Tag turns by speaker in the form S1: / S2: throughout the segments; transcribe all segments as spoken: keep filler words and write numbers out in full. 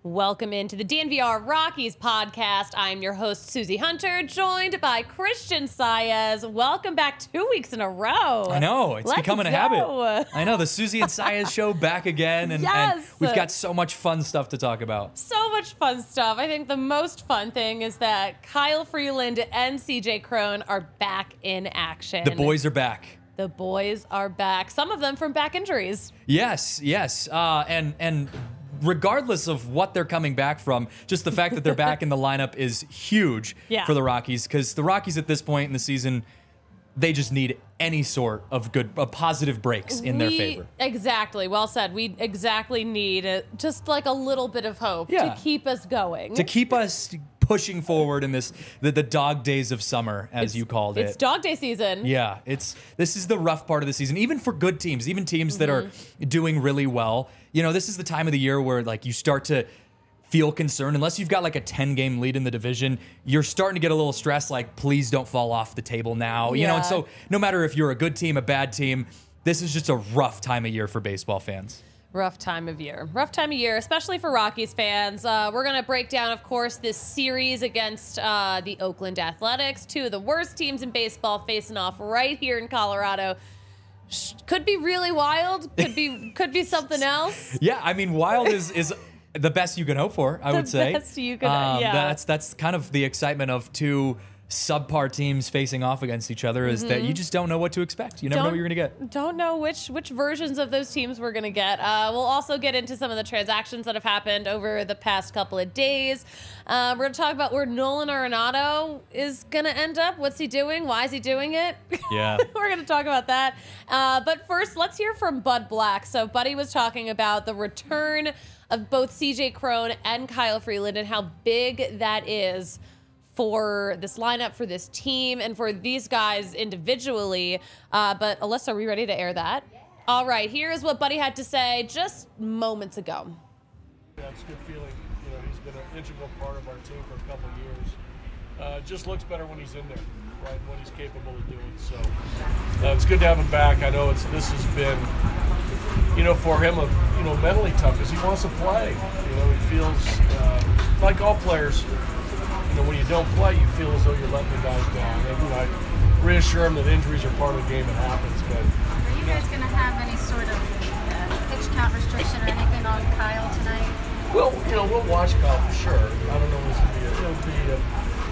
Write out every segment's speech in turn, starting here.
S1: Welcome into the D N V R Rockies podcast. I'm your host, Susie Hunter, joined by Christian Saez. Welcome back two weeks in a row.
S2: I know. It's
S1: Let's
S2: becoming a
S1: go.
S2: habit. I know. The Susie and Saez show back again. And,
S1: Yes.
S2: and we've got so much fun stuff to talk about.
S1: So much fun stuff. I think the most fun thing is that Kyle Freeland and C J Cron are back in action.
S2: The boys are back.
S1: The boys are back. Some of them from back injuries.
S2: Yes, yes. Uh, and and regardless of what they're coming back from, just the fact that they're back in the lineup is huge
S1: Yeah.
S2: for the Rockies, because the Rockies at this point in the season, they just need any sort of good, uh, positive breaks in their
S1: We-
S2: favor.
S1: Exactly. Well said. We exactly need a, just like a little bit of hope
S2: Yeah.
S1: to keep us going.
S2: To keep us pushing forward in this, the, the dog days of summer, as you called it.
S1: It's dog day season.
S2: Yeah, it's this is the rough part of the season, even for good teams, even teams that are doing really well. You know, this is the time of the year where like you start to feel concerned. Unless you've got like a ten game lead in the division, you're starting to get a little stressed, like, please don't fall off the table now. You know, and
S1: Yeah.
S2: so no matter if you're a good team, a bad team, this is just a rough time of year for baseball fans.
S1: Rough time of year. Rough time of year, especially for Rockies fans. Uh, we're going to break down, of course, this series against uh, the Oakland Athletics, two of the worst teams in baseball facing off right here in Colorado. Sh- Could be really wild. Could be could be something else.
S2: Yeah, I mean, wild is is the best you can hope for, I
S1: The
S2: would say.
S1: best you could-
S2: Um,
S1: yeah.
S2: That's that's kind of the excitement of two subpar teams facing off against each other, is that you just don't know what to expect. You never know what you're going to get.
S1: Don't know which which versions of those teams we're going to get. Uh, we'll also get into some of the transactions that have happened over the past couple of days. Uh, we're going to talk about where Nolan Arenado is going to end up. What's he doing? Why is he doing it?
S2: Yeah.
S1: We're going to talk about that. Uh, but first, let's hear from Bud Black. So Buddy was talking about the return of both C J Cron and Kyle Freeland and how big that is for this lineup, for this team, and for these guys individually. Uh, but Alyssa, are we ready to air that? Yeah. All right, here's what Buddy had to say just moments ago.
S3: Yeah, it's a good feeling. You know, he's been an integral part of our team for a couple of years. Uh, it just looks better when he's in there, right? What he's capable of doing. So uh, it's good to have him back. I know it's this has been, you know, for him, a, you know, mentally tough because he wants to play. You know, he feels uh, like all players. You know, when you don't play, you feel as though you're letting the guys down. And, you know, I reassure him that injuries are part of the game. It happens, but.
S4: Are you guys going to have any sort of uh, pitch count restriction or anything on Kyle tonight?
S3: Well, you know, we'll watch Kyle for sure. I don't know if it'll be, a, it'll be a,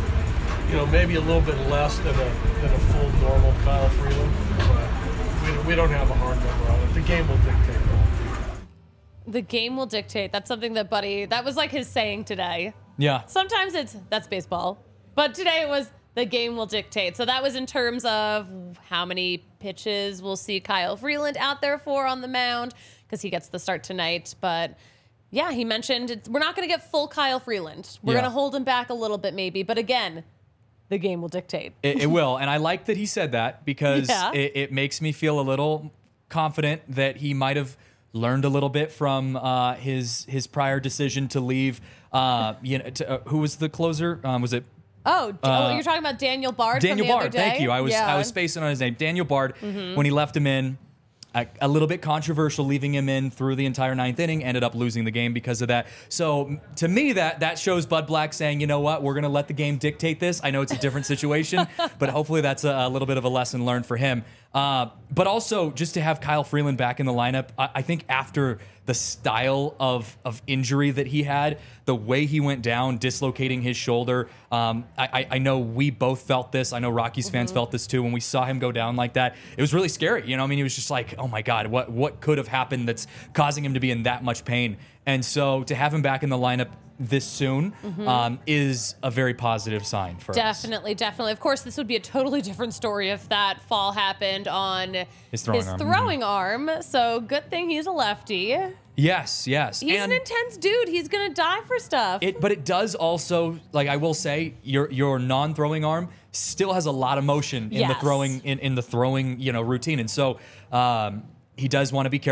S3: you know, maybe a little bit less than a than a full normal Kyle Freeland. But we, we don't have a hard number on it. The game will dictate that.
S1: The game will dictate. That's something that Buddy, that was like his saying today.
S2: Yeah.
S1: Sometimes it's, that's baseball. But today it was, the game will dictate. So that was in terms of how many pitches we'll see Kyle Freeland out there for on the mound, because he gets the start tonight. But yeah, he mentioned it's, we're not going to get full Kyle Freeland. We're
S2: Yeah.
S1: going to hold him back a little bit maybe. But again, the game will dictate.
S2: It, it will. And I like that he said that, because
S1: Yeah.
S2: it, it makes me feel a little confident that he might have learned a little bit from uh, his his prior decision to leave. Uh, you know, to, uh, who was the closer? Um, was it
S1: Oh,
S2: Uh,
S1: oh, you're talking about Daniel Bard
S2: Daniel
S1: from the
S2: Bard?
S1: other day?
S2: Thank you. I was
S1: Yeah. Mm-hmm.
S2: I was spacing on his name. Daniel Bard. When he left him in, a, a little bit controversial, leaving him in through the entire ninth inning. Ended up losing the game because of that. So m- to me, that that shows Bud Black saying, you know what, we're going to let the game dictate this. I know it's a different situation, but hopefully that's a, a little bit of a lesson learned for him. Uh, but also just to have Kyle Freeland back in the lineup, I, I think after the style of of injury that he had, the way he went down, dislocating his shoulder. Um, I, I I know we both felt this. I know Rockies fans felt this too when we saw him go down like that. It was really scary. You know, I mean, he was just like, oh my God, what what could have happened that's causing him to be in that much pain? And so to have him back in the lineup this soon um, is a very positive sign for us.
S1: Definitely, definitely. Of course, this would be a totally different story if that fall happened on
S2: His throwing arm.
S1: throwing arm. So good thing he's a lefty.
S2: Yes, yes.
S1: He's
S2: and
S1: an intense dude. He's gonna die for stuff.
S2: It, but it does also, like I will say, your your non-throwing arm still has a lot of motion in the
S1: Yes.
S2: throwing in, in the throwing you know routine, and so um, he does want to be careful.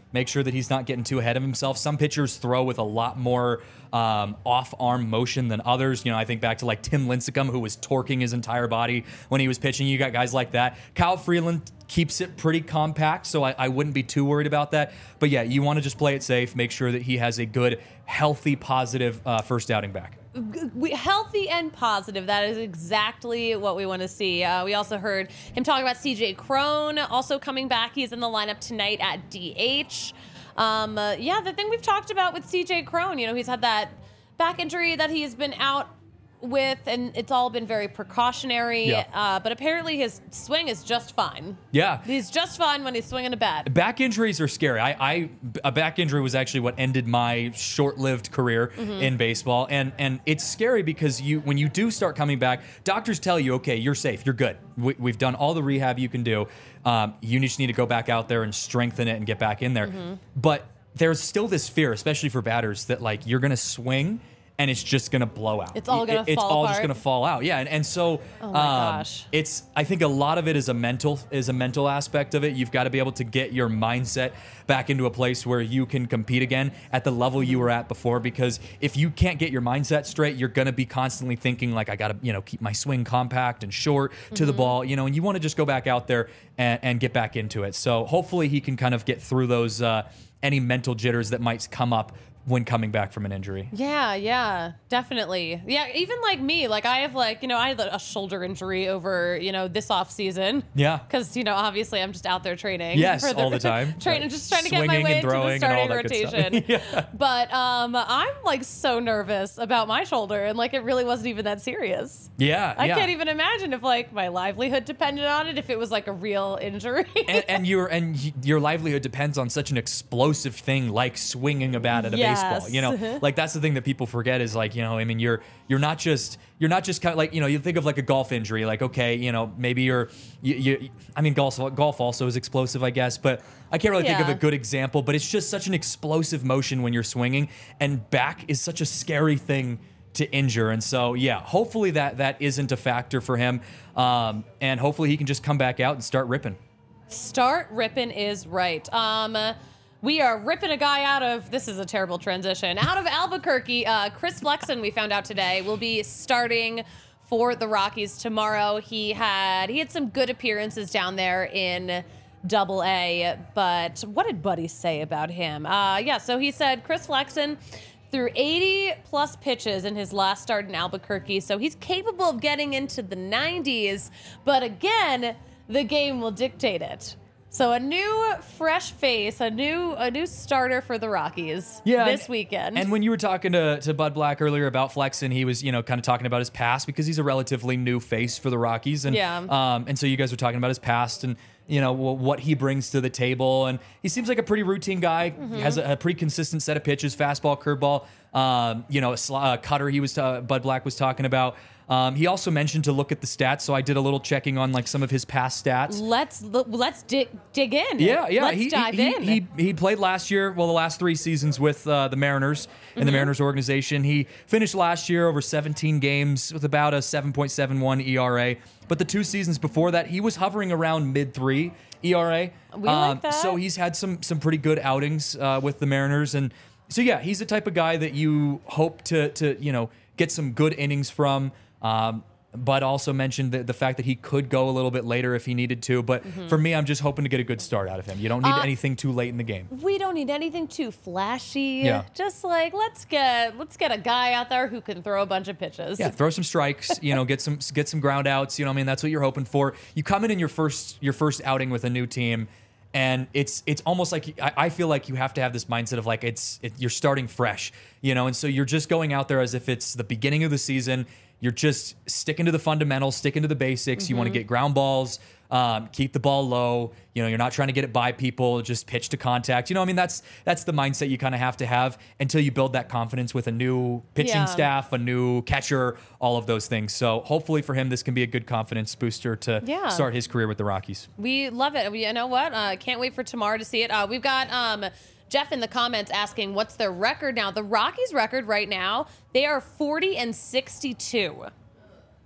S2: Make sure that he's not getting too ahead of himself. Some pitchers throw with a lot more um, off-arm motion than others. You know, I think back to like Tim Lincecum, who was torquing his entire body when he was pitching. You got guys like that. Kyle Freeland keeps it pretty compact, so I, I wouldn't be too worried about that. But yeah, you want to just play it safe. Make sure that he has a good, healthy, positive uh, first outing back.
S1: We, healthy and positive. That is exactly what we want to see. Uh, we also heard him talk about C J Cron also coming back. He's in the lineup tonight at D H. Um, uh, yeah, the thing we've talked about with C J Cron, you know, he's had that back injury that he's been out with, and it's all been very precautionary.
S2: Yeah.
S1: Uh, but apparently his swing is just fine.
S2: Yeah.
S1: He's just fine when he's swinging a bat.
S2: Back injuries are scary. I, I a back injury was actually what ended my short-lived career mm-hmm. in baseball, and and it's scary because you when you do start coming back, doctors tell you, okay, you're safe, you're good. We, we've done all the rehab you can do. Um, you just need to go back out there and strengthen it and get back in there. Mm-hmm. But there's still this fear, especially for batters, that like you're gonna swing and it's just gonna blow out.
S1: It's all gonna
S2: it,
S1: fall
S2: It's all
S1: apart.
S2: just gonna fall out. Yeah, and, and so
S1: oh my
S2: um,
S1: gosh.
S2: it's. I think a lot of it is a mental is a mental aspect of it. You've got to be able to get your mindset back into a place where you can compete again at the level you were at before. Because if you can't get your mindset straight, you're gonna be constantly thinking like, I gotta you know keep my swing compact and short to mm-hmm. the ball. You know, and you want to just go back out there and, and get back into it. So hopefully he can kind of get through those uh, any mental jitters that might come up when coming back from an injury.
S1: Yeah, yeah, definitely. Yeah, even like me, like I have like, you know, I had a shoulder injury over, you know, this off season.
S2: Yeah.
S1: Because, you know, obviously I'm just out there training.
S2: Yes,
S1: for the,
S2: all the time.
S1: Training, just trying to get my
S2: Swinging
S1: way
S2: and
S1: into the
S2: throwing and all
S1: starting
S2: that good stuff.
S1: rotation.
S2: Yeah.
S1: But um, I'm like so nervous about my shoulder, and like it really wasn't even that serious.
S2: Yeah,
S1: I
S2: yeah.
S1: can't even imagine if like my livelihood depended on it, if it was like a real injury.
S2: and, and your and y- your livelihood depends on such an explosive thing like swinging a bat at a
S1: Yes.
S2: baseball. You know, like that's the thing that people forget is like, you know, I mean, you're you're not just you're not just kind of like, you know, you think of like a golf injury, like okay, you know, maybe you're you, you I mean, golf golf also is explosive, I guess, but I can't really think of
S1: Yeah.
S2: a good example. But it's just such an explosive motion when you're swinging, and back is such a scary thing to injure. And so, yeah, hopefully that that isn't a factor for him, um, and hopefully he can just come back out and start ripping.
S1: Start ripping is right. Um, we are ripping a guy out of, this is a terrible transition, out of Albuquerque. Uh, Chris Flexen, we found out today, will be starting for the Rockies tomorrow. He had he had some good appearances down there in Double A, but what did Buddy say about him? Uh, yeah, so he said Chris Flexen threw eighty plus pitches in his last start in Albuquerque, so he's capable of getting into the nineties, but again, the game will dictate it. So a new fresh face, a new a new starter for the Rockies this
S2: and,
S1: weekend.
S2: And when you were talking to, to Bud Black earlier about Flexen, he was, you know, kind of talking about his past because he's a relatively new face for the Rockies. And,
S1: Yeah.
S2: um, and so you guys were talking about his past and, you know, what he brings to the table. And he seems like a pretty routine guy.
S1: Mm-hmm.
S2: He has a, a pretty consistent set of pitches, fastball, curveball, um, you know, a sl- uh, cutter he was, uh, Bud Black was talking about. Um, he also mentioned to look at the stats, so I did a little checking on like some of his past stats.
S1: let's let's dig dig in.
S2: Yeah, yeah.
S1: Let's
S2: he,
S1: dive
S2: he,
S1: in.
S2: He, he he played last year, well, the last three seasons with uh, the Mariners in
S1: Mm-hmm.
S2: the Mariners organization. He finished last year over seventeen games with about a seven point seven one E R A. But the two seasons before that, he was hovering around mid three E R A.
S1: We like that.
S2: So he's had some some pretty good outings uh, with the Mariners, and so yeah, he's the type of guy that you hope to to you know get some good innings from. Um, Bud also mentioned the, the fact that he could go a little bit later if he needed to. But
S1: Mm-hmm.
S2: for me, I'm just hoping to get a good start out of him. You don't need
S1: Uh,
S2: anything too late in the game.
S1: We don't need anything too flashy.
S2: Yeah.
S1: Just like let's get let's get a guy out there who can throw a bunch of pitches.
S2: Yeah, throw some strikes. You know, get some get some ground outs. You know, what I mean, that's what you're hoping for. You come in in your first your first outing with a new team, and it's it's almost like I, I feel like you have to have this mindset of like it's it, you're starting fresh. You know, and so you're just going out there as if it's the beginning of the season. You're just sticking to the fundamentals, sticking to the basics.
S1: Mm-hmm.
S2: You want to get ground balls, um, keep the ball low. You know, you're not trying to get it by people, just pitch to contact. You know, I mean, that's that's the mindset you kind of have to have until you build that confidence with a new pitching
S1: Yeah.
S2: staff, a new catcher, all of those things. So hopefully for him, this can be a good confidence booster to
S1: Yeah.
S2: start his career with the Rockies.
S1: We love it. We, you know what? Uh, can't wait for tomorrow to see it. Uh, we've got um, Jeff in the comments asking, what's their record now? The Rockies' record right now, they are forty and sixty-two.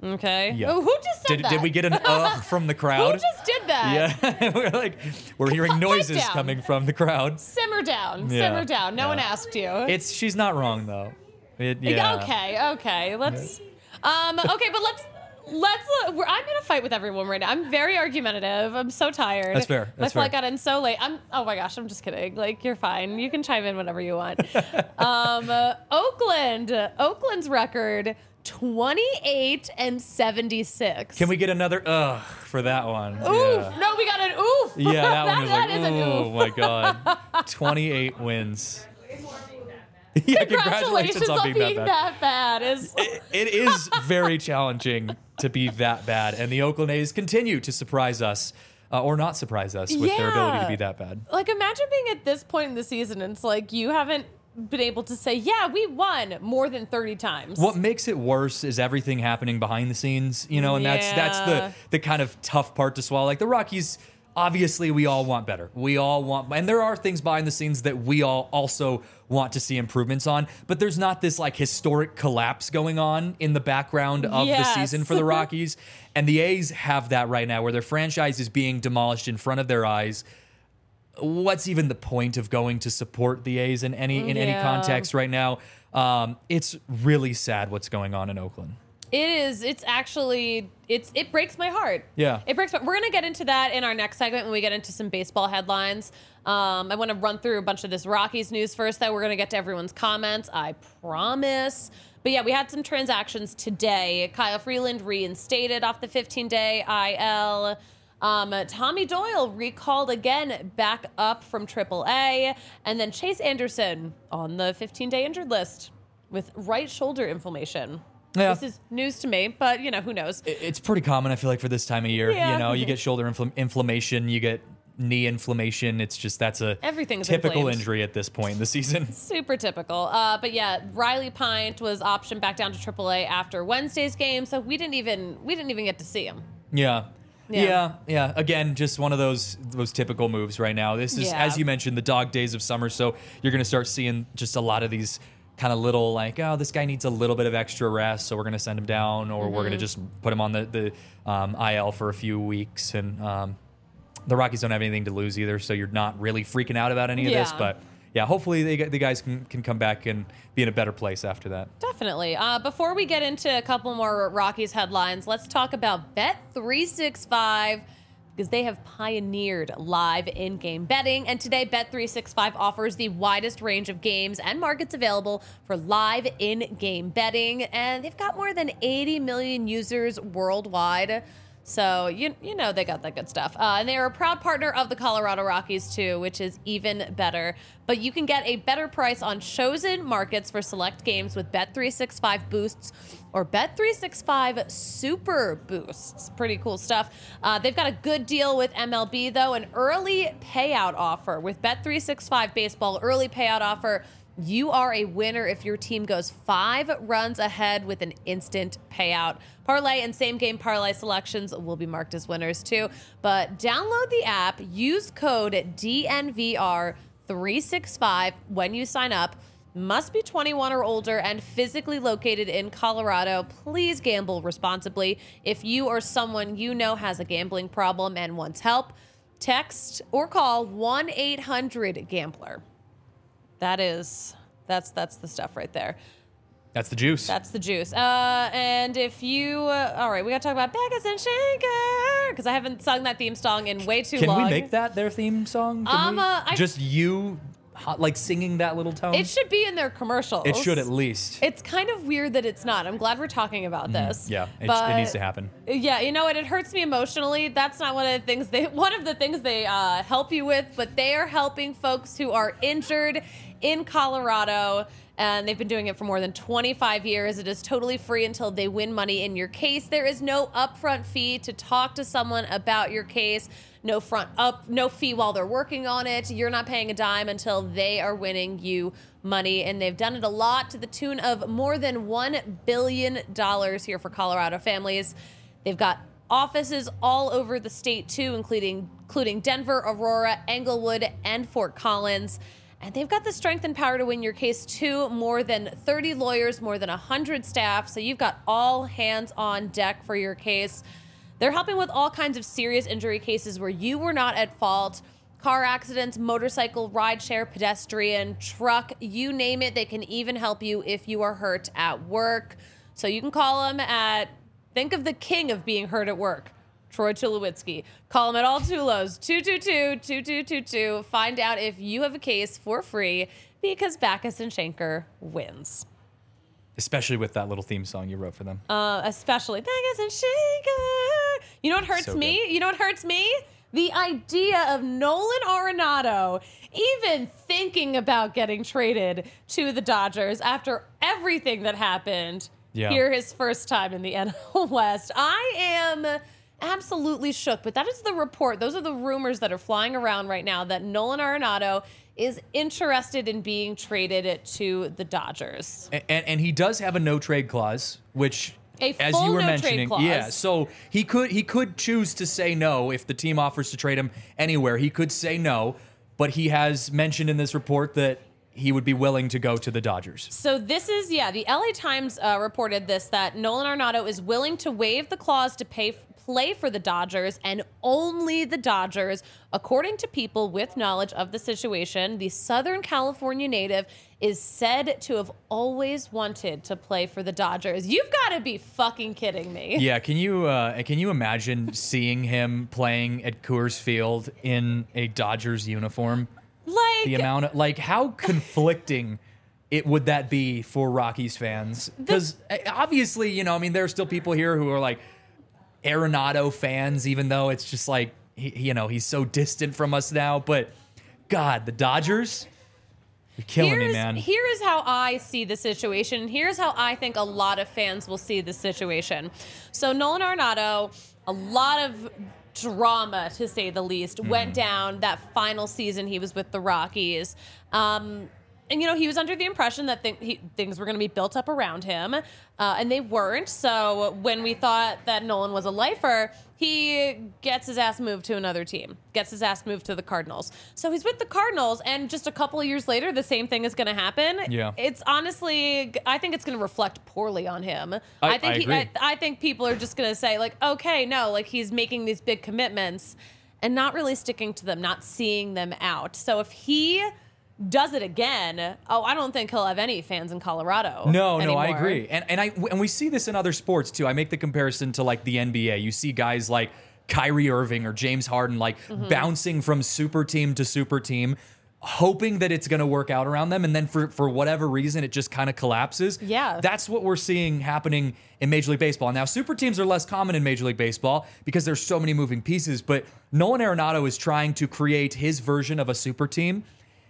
S1: Okay.
S2: Yeah.
S1: Oh, who just said
S2: Did,
S1: that?
S2: did we get an ugh from the
S1: Who
S2: crowd?
S1: just did that?
S2: Yeah, we're like, we're hearing
S1: Pipe
S2: noises
S1: down.
S2: coming from the crowd.
S1: Simmer down.
S2: Yeah.
S1: Simmer down. No
S2: Yeah.
S1: one asked you.
S2: It's she's not wrong though. It, yeah.
S1: Okay. Okay. Let's. Um. Okay, but let's. Let's. Uh, we're, I'm in a fight with everyone right now. I'm very argumentative. I'm so tired.
S2: That's fair. That's
S1: My flight
S2: fair.
S1: got in so late. I'm. Oh my gosh. I'm just kidding. Like you're fine. You can chime in whenever you want. um. uh, Oakland. Oakland's record. twenty-eight and seventy-six.
S2: Can we get another ugh for that one?
S1: Oof.
S2: Yeah.
S1: No, we got an oof.
S2: Yeah, that, one was
S1: that
S2: like,
S1: is an
S2: oh
S1: oof.
S2: my god, twenty-eight wins. Yeah,
S1: Congratulations on being
S2: that bad.
S1: that bad. Is
S2: It, it is very challenging to be that bad, and the Oakland A's continue to surprise us, uh, or not surprise us, with their ability to
S1: Yeah.
S2: be that bad.
S1: like imagine being at this point in the season and it's like you haven't been able to say, yeah, we won more than thirty times.
S2: What makes it worse is everything happening behind the scenes, you know, and that's that's
S1: Yeah.
S2: the the kind of tough part to swallow. Like the Rockies, obviously, we all want better. We all want, and there are things behind the scenes that we all also want to see improvements on. But there's not this like historic collapse going on in the background of
S1: Yes.
S2: the season for the Rockies, and the A's have that right now, where their franchise is being demolished in front of their eyes. What's even the point of going to support the A's in any in any
S1: Yeah.
S2: context right now? Um, it's really sad what's going on in Oakland.
S1: It is. It's actually. It's. It breaks my heart.
S2: Yeah.
S1: It breaks. My, we're gonna get into that in our next segment when we get into some baseball headlines. Um, I want to run through a bunch of this Rockies news first. Though we're gonna get to everyone's comments. I promise. But yeah, we had some transactions today. Kyle Freeland reinstated off the fifteen-day I L. Um, Tommy Doyle recalled again back up from triple A. And then Chase Anderson on the fifteen-day injured list with right shoulder inflammation.
S2: Yeah.
S1: This is news to me, but, you know, who knows?
S2: It- It's pretty common, I feel like, for this time of year.
S1: Yeah.
S2: You know, you get shoulder infl- inflammation, you get knee inflammation. It's just that's a
S1: Everything's
S2: typical
S1: inflamed.
S2: injury at this point in the season.
S1: Super typical. Uh, but yeah, Riley Pint was optioned back down to triple A after Wednesday's game, so we didn't even we didn't even get to see him.
S2: Yeah.
S1: Yeah.
S2: Yeah, yeah. Again, just one of those those typical moves right now. This is,
S1: Yeah.
S2: as you mentioned, the dog days of summer. So you're going to start seeing just a lot of these kind of little like, oh, this guy needs a little bit of extra rest, so we're going to send him down, or we're going to
S1: Mm-hmm.
S2: just put him on the the um, I L for a few weeks. And um, the Rockies don't have anything to lose either, so you're not really freaking out about any of this.
S1: Yeah.
S2: But yeah, hopefully they, the guys can, can come back and be in a better place after that.
S1: Definitely. Uh, before we get into a couple more Rockies headlines, let's talk about Bet three sixty-five. Because they have pioneered live in-game betting. And today, Bet three sixty-five offers the widest range of games and markets available for live in-game betting. And they've got more than eighty million users worldwide. So, you you know they got that good stuff. Uh, and they are a proud partner of the Colorado Rockies, too, which is even better. But you can get a better price on chosen markets for select games with Bet three sixty-five Boosts or Bet three sixty-five Super Boosts. Pretty cool stuff. Uh, they've got a good deal with M L B, though, an early payout offer. With Bet three sixty-five Baseball early payout offer, you are a winner if your team goes five runs ahead with an instant payout. Parlay and same game parlay selections will be marked as winners too. But download the app, use code D N V R three sixty-five when you sign up. Must be twenty-one or older and physically located in Colorado. Please gamble responsibly. If you or someone you know has a gambling problem and wants help, text or call one eight hundred gambler. That is, that's that's the stuff right there.
S2: That's the juice.
S1: That's the juice. Uh, and if you, uh, all right, we got to talk about Beckus and Shaker because I haven't sung that theme song in way too
S2: Can
S1: long.
S2: we make that their theme song? Can
S1: Um,
S2: we?
S1: uh, I-
S2: just you, ho- like singing that little tone.
S1: It should be in their commercials.
S2: It should at least.
S1: It's kind of weird that it's not. I'm glad we're talking about this.
S2: yeah, it,
S1: but
S2: it needs to happen.
S1: Yeah, you know what? It hurts me emotionally. That's not one of the things they one of the things they uh, help you with, but they are helping folks who are injured in Colorado. And they've been doing it for more than twenty-five years. It is totally free until they win money in your case. There is no upfront fee to talk to someone about your case. No front up, no fee while they're working on it. You're not paying a dime until they are winning you money. And they've done it a lot to the tune of more than one billion dollars here for Colorado families. They've got offices all over the state too, including including Denver, Aurora, Englewood, and Fort Collins. And they've got the strength and power to win your case too. More than thirty lawyers, more than one hundred staff. So you've got all hands on deck for your case. They're helping with all kinds of serious injury cases where you were not at fault. Car accidents, motorcycle, rideshare, pedestrian, truck, you name it. They can even help you if you are hurt at work. So you can call them at, think of the king of being hurt at work, Troy Tulowitzki. Call him at all Tulos, two two two, two two two two. Find out if you have a case for free because Backus and Schenker wins.
S2: Especially with that little theme song you wrote for them.
S1: Uh, especially Backus and Schenker. You know what hurts
S2: So
S1: me?
S2: good.
S1: You know what hurts me? The idea of Nolan Arenado even thinking about getting traded to the Dodgers after everything that happened
S2: Yeah.
S1: here his first time in the N L West. I am absolutely shook, but that is the report. Those are the rumors that are flying around right now that Nolan Arenado is interested in being traded to the Dodgers.
S2: And, and, and he does have a no trade clause, which,
S1: A
S2: as
S1: full
S2: you were
S1: no trade
S2: mentioning,
S1: clause.
S2: yeah. So he could he could choose to say no if the team offers to trade him anywhere. He could say no, but he has mentioned in this report that he would be willing to go to the Dodgers.
S1: So this is, yeah, the L A Times uh, reported this, that Nolan Arenado is willing to waive the clause to pay play for the Dodgers and only the Dodgers. According to people with knowledge of the situation, the Southern California native is said to have always wanted to play for the Dodgers. You've got to be fucking kidding me.
S2: Yeah, can you uh, can you imagine seeing him playing at Coors Field in a Dodgers uniform?
S1: Like,
S2: The amount of like how conflicting it would that be for Rockies fans? Because obviously, you know, I mean, there are still people here who are like Arenado fans, even though it's just like he, you know, he's so distant from us now. But God, the Dodgers, you're killing
S1: here's,
S2: me, man.
S1: Here is how I see the situation. Here's how I think a lot of fans will see the situation. So Nolan Arenado, a lot of drama, to say the least,
S2: Mm-hmm.
S1: went down that final season he was with the Rockies. Um, and, you know, he was under the impression that th- he, things were going to be built up around him, uh, and they weren't. So when we thought that Nolan was a lifer, he gets his ass moved to another team, gets his ass moved to the Cardinals. So he's with the Cardinals, and just a couple of years later, the same thing is going to happen.
S2: Yeah.
S1: It's honestly, I think it's going to reflect poorly on him.
S2: I-
S1: think
S2: I
S1: he,
S2: agree.
S1: I, I think people are just going to say, like, okay, no, like he's making these big commitments and not really sticking to them, not seeing them out. So if he does it again, oh, I don't think he'll have any fans in Colorado.
S2: No, no, I
S1: anymore.
S2: agree, and and I and we see this in other sports too. I make the comparison to like the N B A. You see guys like Kyrie Irving or James Harden like
S1: Mm-hmm.
S2: bouncing from super team to super team, hoping that it's going to work out around them, and then for for whatever reason it just kind of collapses.
S1: Yeah.
S2: That's what we're seeing happening in Major League Baseball. Now, super teams are less common in Major League Baseball because there's so many moving pieces, but Nolan Arenado is trying to create his version of a super team,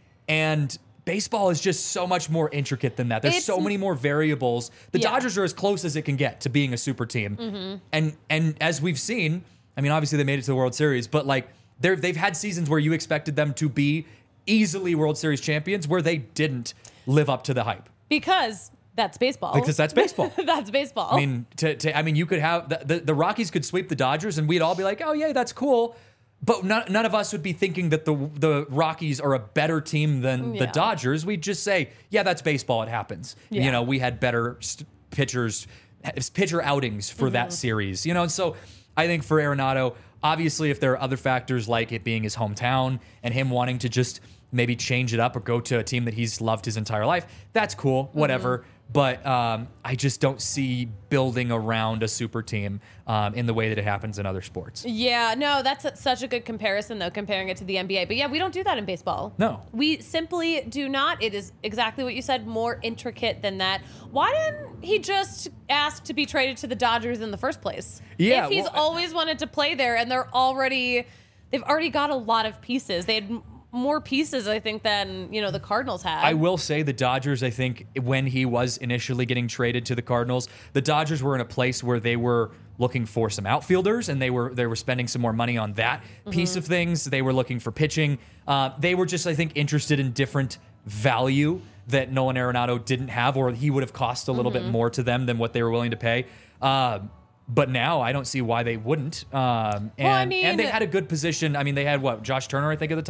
S2: and baseball is just so much more intricate than that. There's
S1: It's-
S2: so many more variables. The
S1: Yeah.
S2: Dodgers are as close as it can get to being a super team.
S1: Mm-hmm.
S2: And and as we've seen, I mean, obviously they made it to the World Series, but like they're, they've had seasons where you expected them to be easily World Series champions where they didn't live up to the hype.
S1: Because that's baseball.
S2: Because that's baseball.
S1: That's baseball.
S2: I mean, to, to I mean, you could have the, the, the Rockies could sweep the Dodgers, and we'd all be like, "Oh yeah, that's cool." But none, none of us would be thinking that the the Rockies are a better team than the
S1: Yeah.
S2: Dodgers. We'd just say, "Yeah, that's baseball. It happens."
S1: Yeah.
S2: You know, we had better st- pitchers, pitcher outings for
S1: Mm-hmm.
S2: that series. You know, and so I think for Arenado, obviously, if there are other factors like it being his hometown and him wanting to just maybe change it up or go to a team that he's loved his entire life, that's cool. Whatever.
S1: Mm-hmm.
S2: But um, I just don't see building around a super team um, in the way that it happens in other sports.
S1: Yeah, no, that's a, such a good comparison, though, comparing it to the N B A. But yeah, we don't do that in baseball.
S2: No.
S1: We simply do not. It is exactly what you said, more intricate than that. Why didn't he just ask to be traded to the Dodgers in the first place?
S2: Yeah,
S1: If he's
S2: well, I-
S1: always wanted to play there and they're already, they've already got a lot of pieces. They had m- more pieces, I think, than, you know, the Cardinals had.
S2: I will say the Dodgers, I think, when he was initially getting traded to the Cardinals, the Dodgers were in a place where they were looking for some outfielders, and they were they were spending some more money on that piece of things. They were looking for pitching. Uh, they were just, I think, interested in different value that Nolan Arenado didn't have, or he would have cost a little bit more to them than what they were willing to pay. Uh, but now I don't see why they wouldn't. Um, and,
S1: Well, I mean-
S2: and they had a good position. I mean, they had, what, Josh Turner, I think, at the time.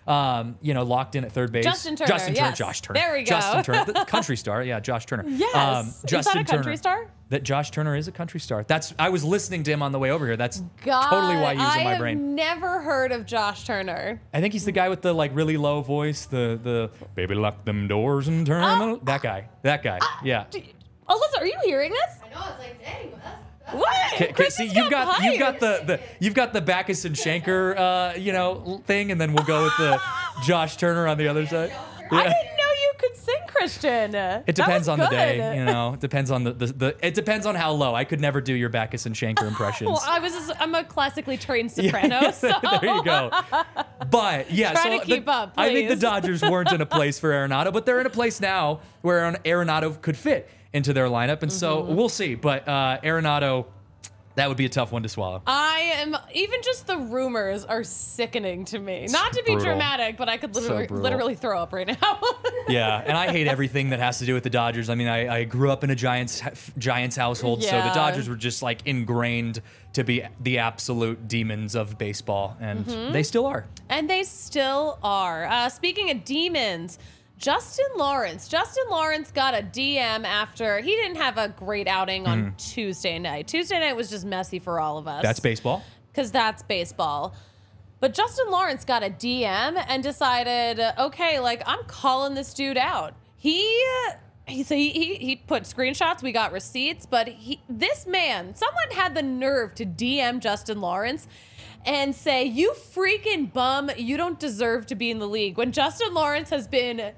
S2: um, you know, locked in at third base.
S1: Justin Turner,
S2: Justin Turner,
S1: yes.
S2: Josh Turner.
S1: There we go.
S2: Justin Turner, the country star. Yeah, Josh Turner.
S1: Yes.
S2: Um,
S1: Is
S2: Justin
S1: that a country
S2: Turner.
S1: star?
S2: That Josh Turner is a country star. That's I was listening to him on the way over here. That's
S1: God,
S2: totally why he was
S1: I
S2: in my
S1: have
S2: brain.
S1: never heard of Josh Turner.
S2: I think he's the guy with the like really low voice, the the baby lock them doors and turn
S1: Uh,
S2: them- that guy. That guy. Yeah.
S1: Alyssa, are you hearing this?
S5: I know, it's like, dang, that's, that's
S1: What?
S2: Okay, okay, see,
S1: Kristen's
S2: you've got you've got
S1: pipes.
S2: the, the you've got the Backus and Shanker uh, you know thing, and then we'll go with the Josh Turner on the other side.
S1: I didn't know you could sing, Christian.
S2: It depends on the day, you know. It depends on the, the, the it depends on how low. I could never do your Backus and Shanker impressions.
S1: Well, I was just, I'm a classically trained soprano, so
S2: there you go. But yeah,
S1: Try
S2: so
S1: to
S2: the-
S1: keep up,
S2: I think the
S1: please.
S2: Dodgers weren't in a place for Arenado, but they're in a place now where Aaron- Arenado could fit into their lineup, and so
S1: Mm-hmm.
S2: we'll see. But uh, Arenado, that would be a tough one to swallow.
S1: I am even just the rumors are sickening to me. Not to be
S2: brutal.
S1: dramatic, but I could literally
S2: brutal.
S1: literally throw up right now.
S2: Yeah, and I hate everything that has to do with the Dodgers. I mean, I, I grew up in a Giants Giants household, so the
S1: Yeah.
S2: Dodgers were just like ingrained to be the absolute demons of baseball, and
S1: Mm-hmm.
S2: they still are.
S1: And they still are. Uh, speaking of demons, Justin Lawrence. Justin Lawrence got a D M after he didn't have a great outing on Tuesday night. Tuesday night was just messy for all of us.
S2: Mm. That's baseball.
S1: Because that's baseball. But Justin Lawrence got a D M and decided, okay, like, I'm calling this dude out. He... He, so he, he he put screenshots. We got receipts, but he this man, someone had the nerve to D M Justin Lawrence and say, "You freaking bum, you don't deserve to be in the league." When Justin Lawrence has been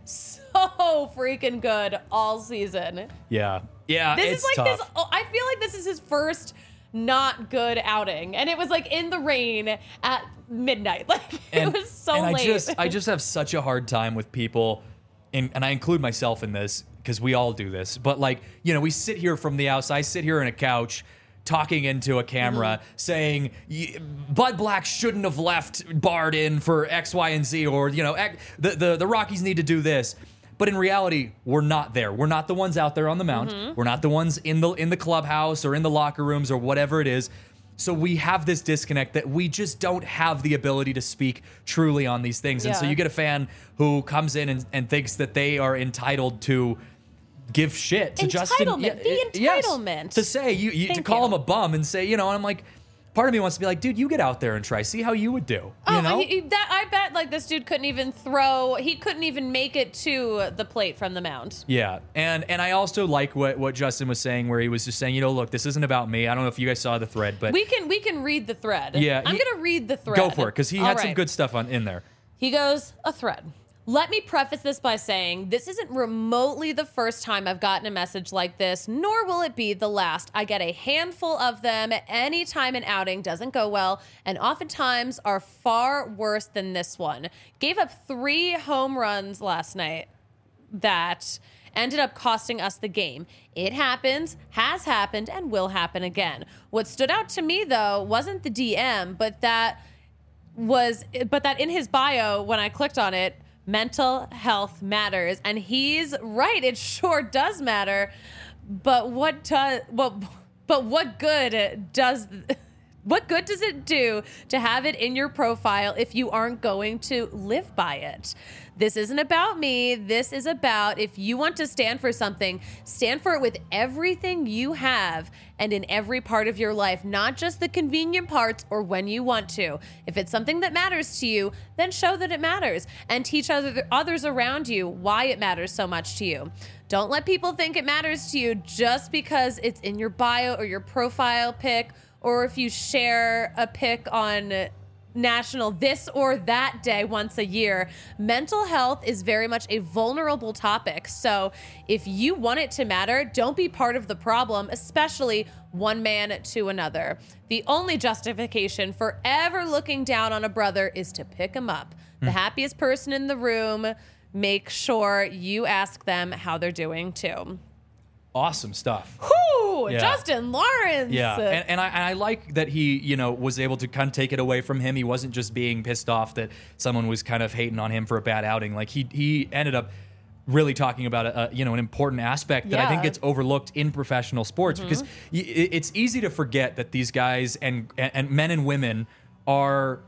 S1: so freaking good all season.
S2: Yeah, yeah.
S1: This
S2: it's
S1: is like
S2: tough.
S1: his. oh, I feel like this is his first not good outing, and it was like in the rain at midnight. Like
S2: and,
S1: it was so
S2: and
S1: late.
S2: I just I just have such a hard time with people, in, and I include myself in this because we all do this. But like you know, we sit here from the outside. I sit here in a couch talking into a camera
S1: Mm-hmm.
S2: saying "Y- Bud Black shouldn't have left Bard in for X, Y, and Z, or you know X, the, the the Rockies need to do this. But in reality, we're not there. We're not the ones out there on the mound.
S1: Mm-hmm.
S2: We're not the ones in the in the clubhouse or in the locker rooms or whatever it is. So we have this disconnect that we just don't have the ability to speak truly on these things. And so
S1: Yeah.
S2: you get a fan who comes in and, and thinks that they are entitled to give shit to Justin.
S1: Entitlement. The
S2: it- yes.
S1: entitlement.
S2: To say you, you to
S1: Thank
S2: call
S1: you.
S2: him a bum and say, you know, and I'm like, part of me wants to be like, dude, you get out there and try. See how you would do.
S1: Oh,
S2: you know?
S1: he- he- that I bet like this dude couldn't even throw. He couldn't even make it to the plate from the mound.
S2: Yeah, and and I also like what what Justin was saying, where he was just saying, you know, look, this isn't about me. I don't know if you guys saw the thread, but
S1: We can we can read the thread.
S2: Yeah,
S1: I'm
S2: he-
S1: gonna read the thread.
S2: go for it because he
S1: All
S2: had some
S1: right.
S2: good stuff on in there.
S1: He goes, a thread. Let me preface this by saying this isn't remotely the first time I've gotten a message like this, nor will it be the last. I get a handful of them anytime an outing doesn't go well, and oftentimes are far worse than this one. Gave up three home runs last night that ended up costing us the game. It happens, has happened, and will happen again. What stood out to me, though, wasn't the D M, but that was but that in his bio when I clicked on it, mental health matters, and he's right, it sure does matter. But what does what but what good does what good does it do to have it in your profile if you aren't going to live by it? This isn't about me. This is about if you want to stand for something, stand for it with everything you have and in every part of your life, not just the convenient parts or when you want to. If it's something that matters to you, then show that it matters and teach other, others around you why it matters so much to you. Don't let people think it matters to you just because it's in your bio or your profile pic, or if you share a pic on national this or that day once a year. Mental health is very much a vulnerable topic. So if you want it to matter, don't be part of the problem, especially one man to another. The only justification for ever looking down on a brother is to pick him up. The happiest person in the room, make sure you ask them how they're doing too.
S2: Awesome stuff.
S1: Whoo!
S2: Yeah.
S1: Justin Lawrence.
S2: Yeah, and, and I and I like that he, you know, was able to kind of take it away from him. He wasn't just being pissed off that someone was kind of hating on him for a bad outing. Like he he ended up really talking about a, a you know an important aspect that I think
S1: Yeah.
S2: gets overlooked in professional sports because y- it- it's easy to forget that these guys and, and and men and women are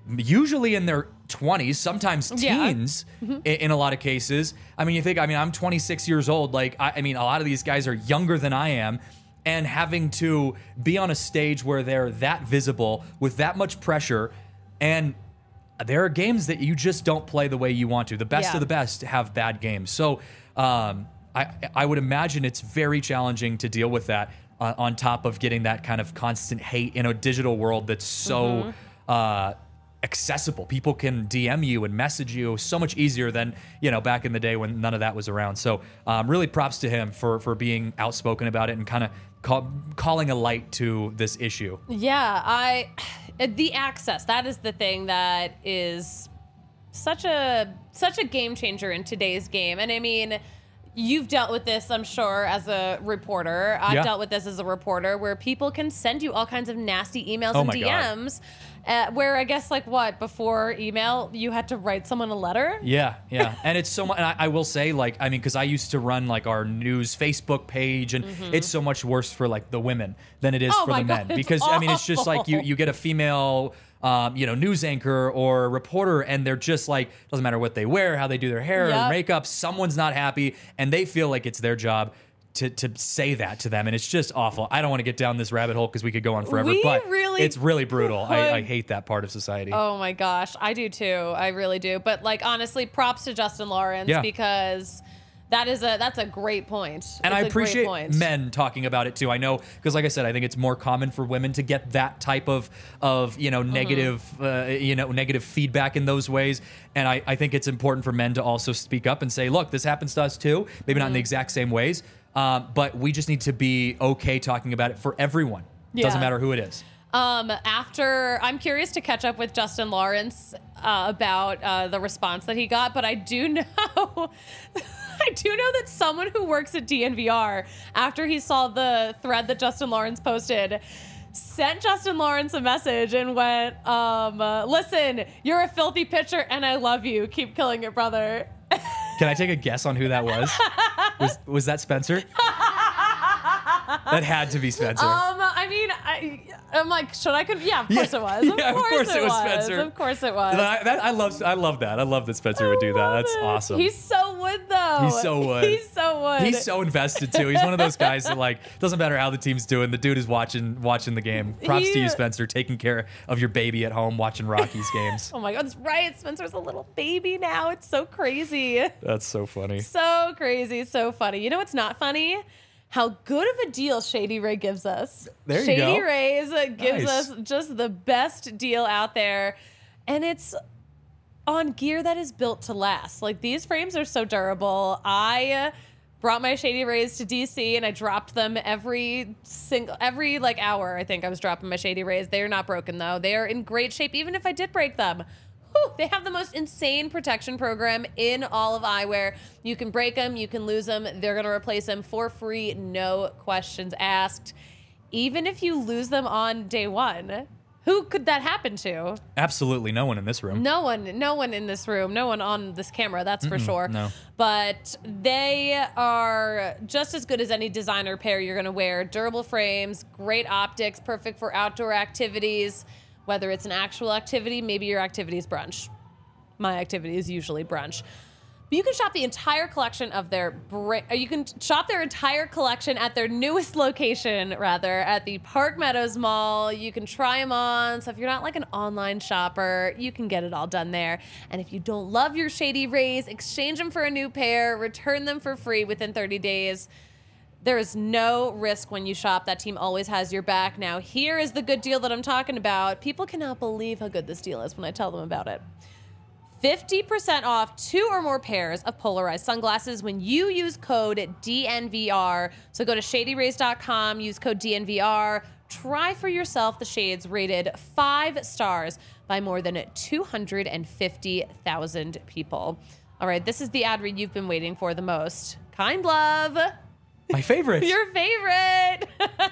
S2: usually in their twenties, sometimes
S1: Yeah.
S2: teens in, in a lot of cases. I mean, you think, I mean, I'm twenty-six years old. Like, I, I mean, a lot of these guys are younger than I am. And having to be on a stage where they're that visible with that much pressure, and there are games that you just don't play the way you want to. The best
S1: Yeah.
S2: of the best have bad games. So um, I, I would imagine it's very challenging to deal with that uh, on top of getting that kind of constant hate in a digital world that's so
S1: Mm-hmm.
S2: uh, accessible. People can D M you and message you so much easier than, you know, back in the day when none of that was around. So um, really props to him for, for being outspoken about it and kind of call, calling a light to this issue.
S1: Yeah, I the access, that is the thing that is such a such a game changer in today's game. And I mean, you've dealt with this, I'm sure, as a reporter. I've
S2: Yeah.
S1: dealt with this as a reporter, where people can send you all kinds of nasty emails
S2: Oh
S1: and
S2: my
S1: D
S2: God.
S1: Ms. Uh, where I guess, like, what, before email, you had to write someone a letter?
S2: Yeah, yeah. And it's so much, and I, I will say, like, I mean, because I used to run, like, our news Facebook page, and it's so much worse for, like, the women than it is
S1: Mm-hmm. Oh
S2: for
S1: my
S2: the
S1: God,
S2: men.
S1: it's
S2: Because, I mean, it's just like you,
S1: awful.
S2: you get a female, um, you know, news anchor or reporter, and they're just like, doesn't matter what they wear, how they do their hair
S1: Yep.
S2: or makeup, someone's not happy, and they feel like it's their job to, to say that to them, and it's just awful. I don't want to get down this rabbit hole because we could go on forever,
S1: We
S2: but
S1: really
S2: it's really brutal. I, I
S1: could.
S2: hate that part of society.
S1: Oh my gosh, I do too. I really do. But, like, honestly, props to Justin Lawrence,
S2: Yeah.
S1: because that is a that's a great point.
S2: And
S1: It's
S2: I
S1: a great
S2: appreciate
S1: point.
S2: men talking about it too. I know, because like I said, I think it's more common for women to get that type of of you know
S1: Mm-hmm.
S2: negative uh, you know negative feedback in those ways. And I, I think it's important for men to also speak up and say, look, this happens to us too. Maybe not in the
S1: Mm-hmm.
S2: exact same ways, um, but we just need to be okay talking about it for everyone. Doesn't
S1: Yeah.
S2: matter who it is.
S1: Um, after I'm curious to catch up with Justin Lawrence uh, about uh, the response that he got, but I do know, I do know that someone who works at D N V R, after he saw the thread that Justin Lawrence posted, sent Justin Lawrence a message and went, um, uh, "Listen, you're a filthy pitcher, and I love you. Keep killing it, brother."
S2: Can I take a guess on who that was? was was that Spencer? That had to be Spencer.
S1: Um, I mean, I, I'm like, should I? Con- yeah, of course
S2: Yeah.
S1: it was. Of,
S2: Yeah, of
S1: course,
S2: course
S1: it
S2: it was
S1: was.
S2: Spencer.
S1: Of course it was.
S2: And I, that, I love I love that. I love that Spencer would do that.
S1: Love
S2: That's
S1: it.
S2: awesome.
S1: He's so wood though.
S2: He so would.
S1: He's so wood.
S2: He's so invested too. He's one of those guys that, like, doesn't matter how the team's doing. The dude is watching watching the game. Props to
S1: He-
S2: you, Spencer, taking care of your baby at home, watching Rockies games.
S1: Oh my God, that's right. Spencer's a little baby now. It's so crazy.
S2: That's so funny.
S1: So crazy. So funny. You know what's not funny? How good of a deal Shady Ray gives us.
S2: There you
S1: Shady
S2: go.
S1: Rays uh, gives
S2: Nice.
S1: us just the best deal out there. And it's on gear that is built to last. Like, these frames are so durable. I uh, brought my Shady Rays to D C and I dropped them every single, every like hour. I think I was dropping my Shady Rays. They are not broken though. They are in great shape, even if I did break them. Whew, they have the most insane protection program in all of eyewear. You can break them, you can lose them. They're going to replace them for free, no questions asked. Even if you lose them on day one, who could that happen to?
S2: Absolutely no one in this room.
S1: No one, no one in this room, no one on this camera, that's for sure.
S2: no.
S1: But they are just as good as any designer pair you're going to wear. Durable frames, great optics, perfect for outdoor activities, whether it's an actual activity, maybe your activity is brunch. My activity is usually brunch. But you can shop the entire collection of their bra- you can shop their entire collection at their newest location, rather, at the Park Meadows Mall. You can try them on. So if you're not like an online shopper, you can get it all done there. And if you don't love your Shady Rays, exchange them for a new pair, return them for free within thirty days. There is no risk when you shop. That team always has your back. Now, here is the good deal that I'm talking about. People cannot believe how good this deal is when I tell them about it. fifty percent off two or more pairs of polarized sunglasses when you use code D N V R. So go to shady rays dot com, use code D N V R. Try for yourself the shades rated five stars by more than two hundred fifty thousand people. All right, this is the ad read you've been waiting for the most. Kind Love.
S2: My favorite.
S1: Your favorite.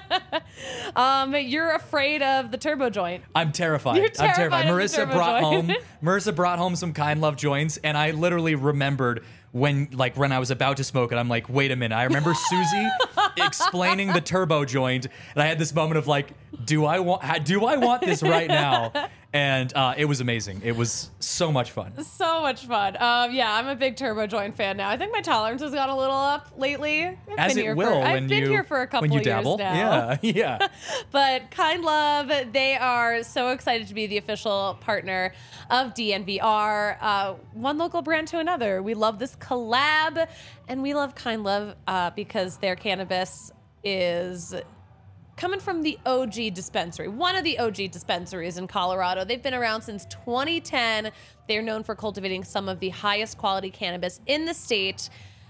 S1: um, you're afraid of the turbo joint.
S2: I'm terrified.
S1: You're
S2: I'm terrified.
S1: terrified of the
S2: Marissa
S1: turbo
S2: brought
S1: joint.
S2: home Marissa brought home some Kind Love joints, and I literally remembered when like when I was about to smoke it. I'm like, wait a minute. I remember Susie explaining the turbo joint, and I had this moment of like, do I want do I want this right now? And uh, it was amazing. It was so much fun.
S1: So much fun. Um, yeah, I'm a big Turbo Joint fan now. I think my tolerance has gone a little up lately. I've
S2: As
S1: been
S2: it
S1: here
S2: will
S1: for,
S2: when
S1: I've been
S2: you
S1: here for a couple
S2: when you
S1: of
S2: dabble.
S1: years now.
S2: Yeah, yeah.
S1: But Kind Love, they are so excited to be the official partner of D N V R. Uh, one local brand to another. We love this collab, and we love Kind Love uh, because their cannabis is coming from the O G dispensary, one of the O G dispensaries in Colorado. They've been around since twenty ten. They're known for cultivating some of the highest quality cannabis in the state.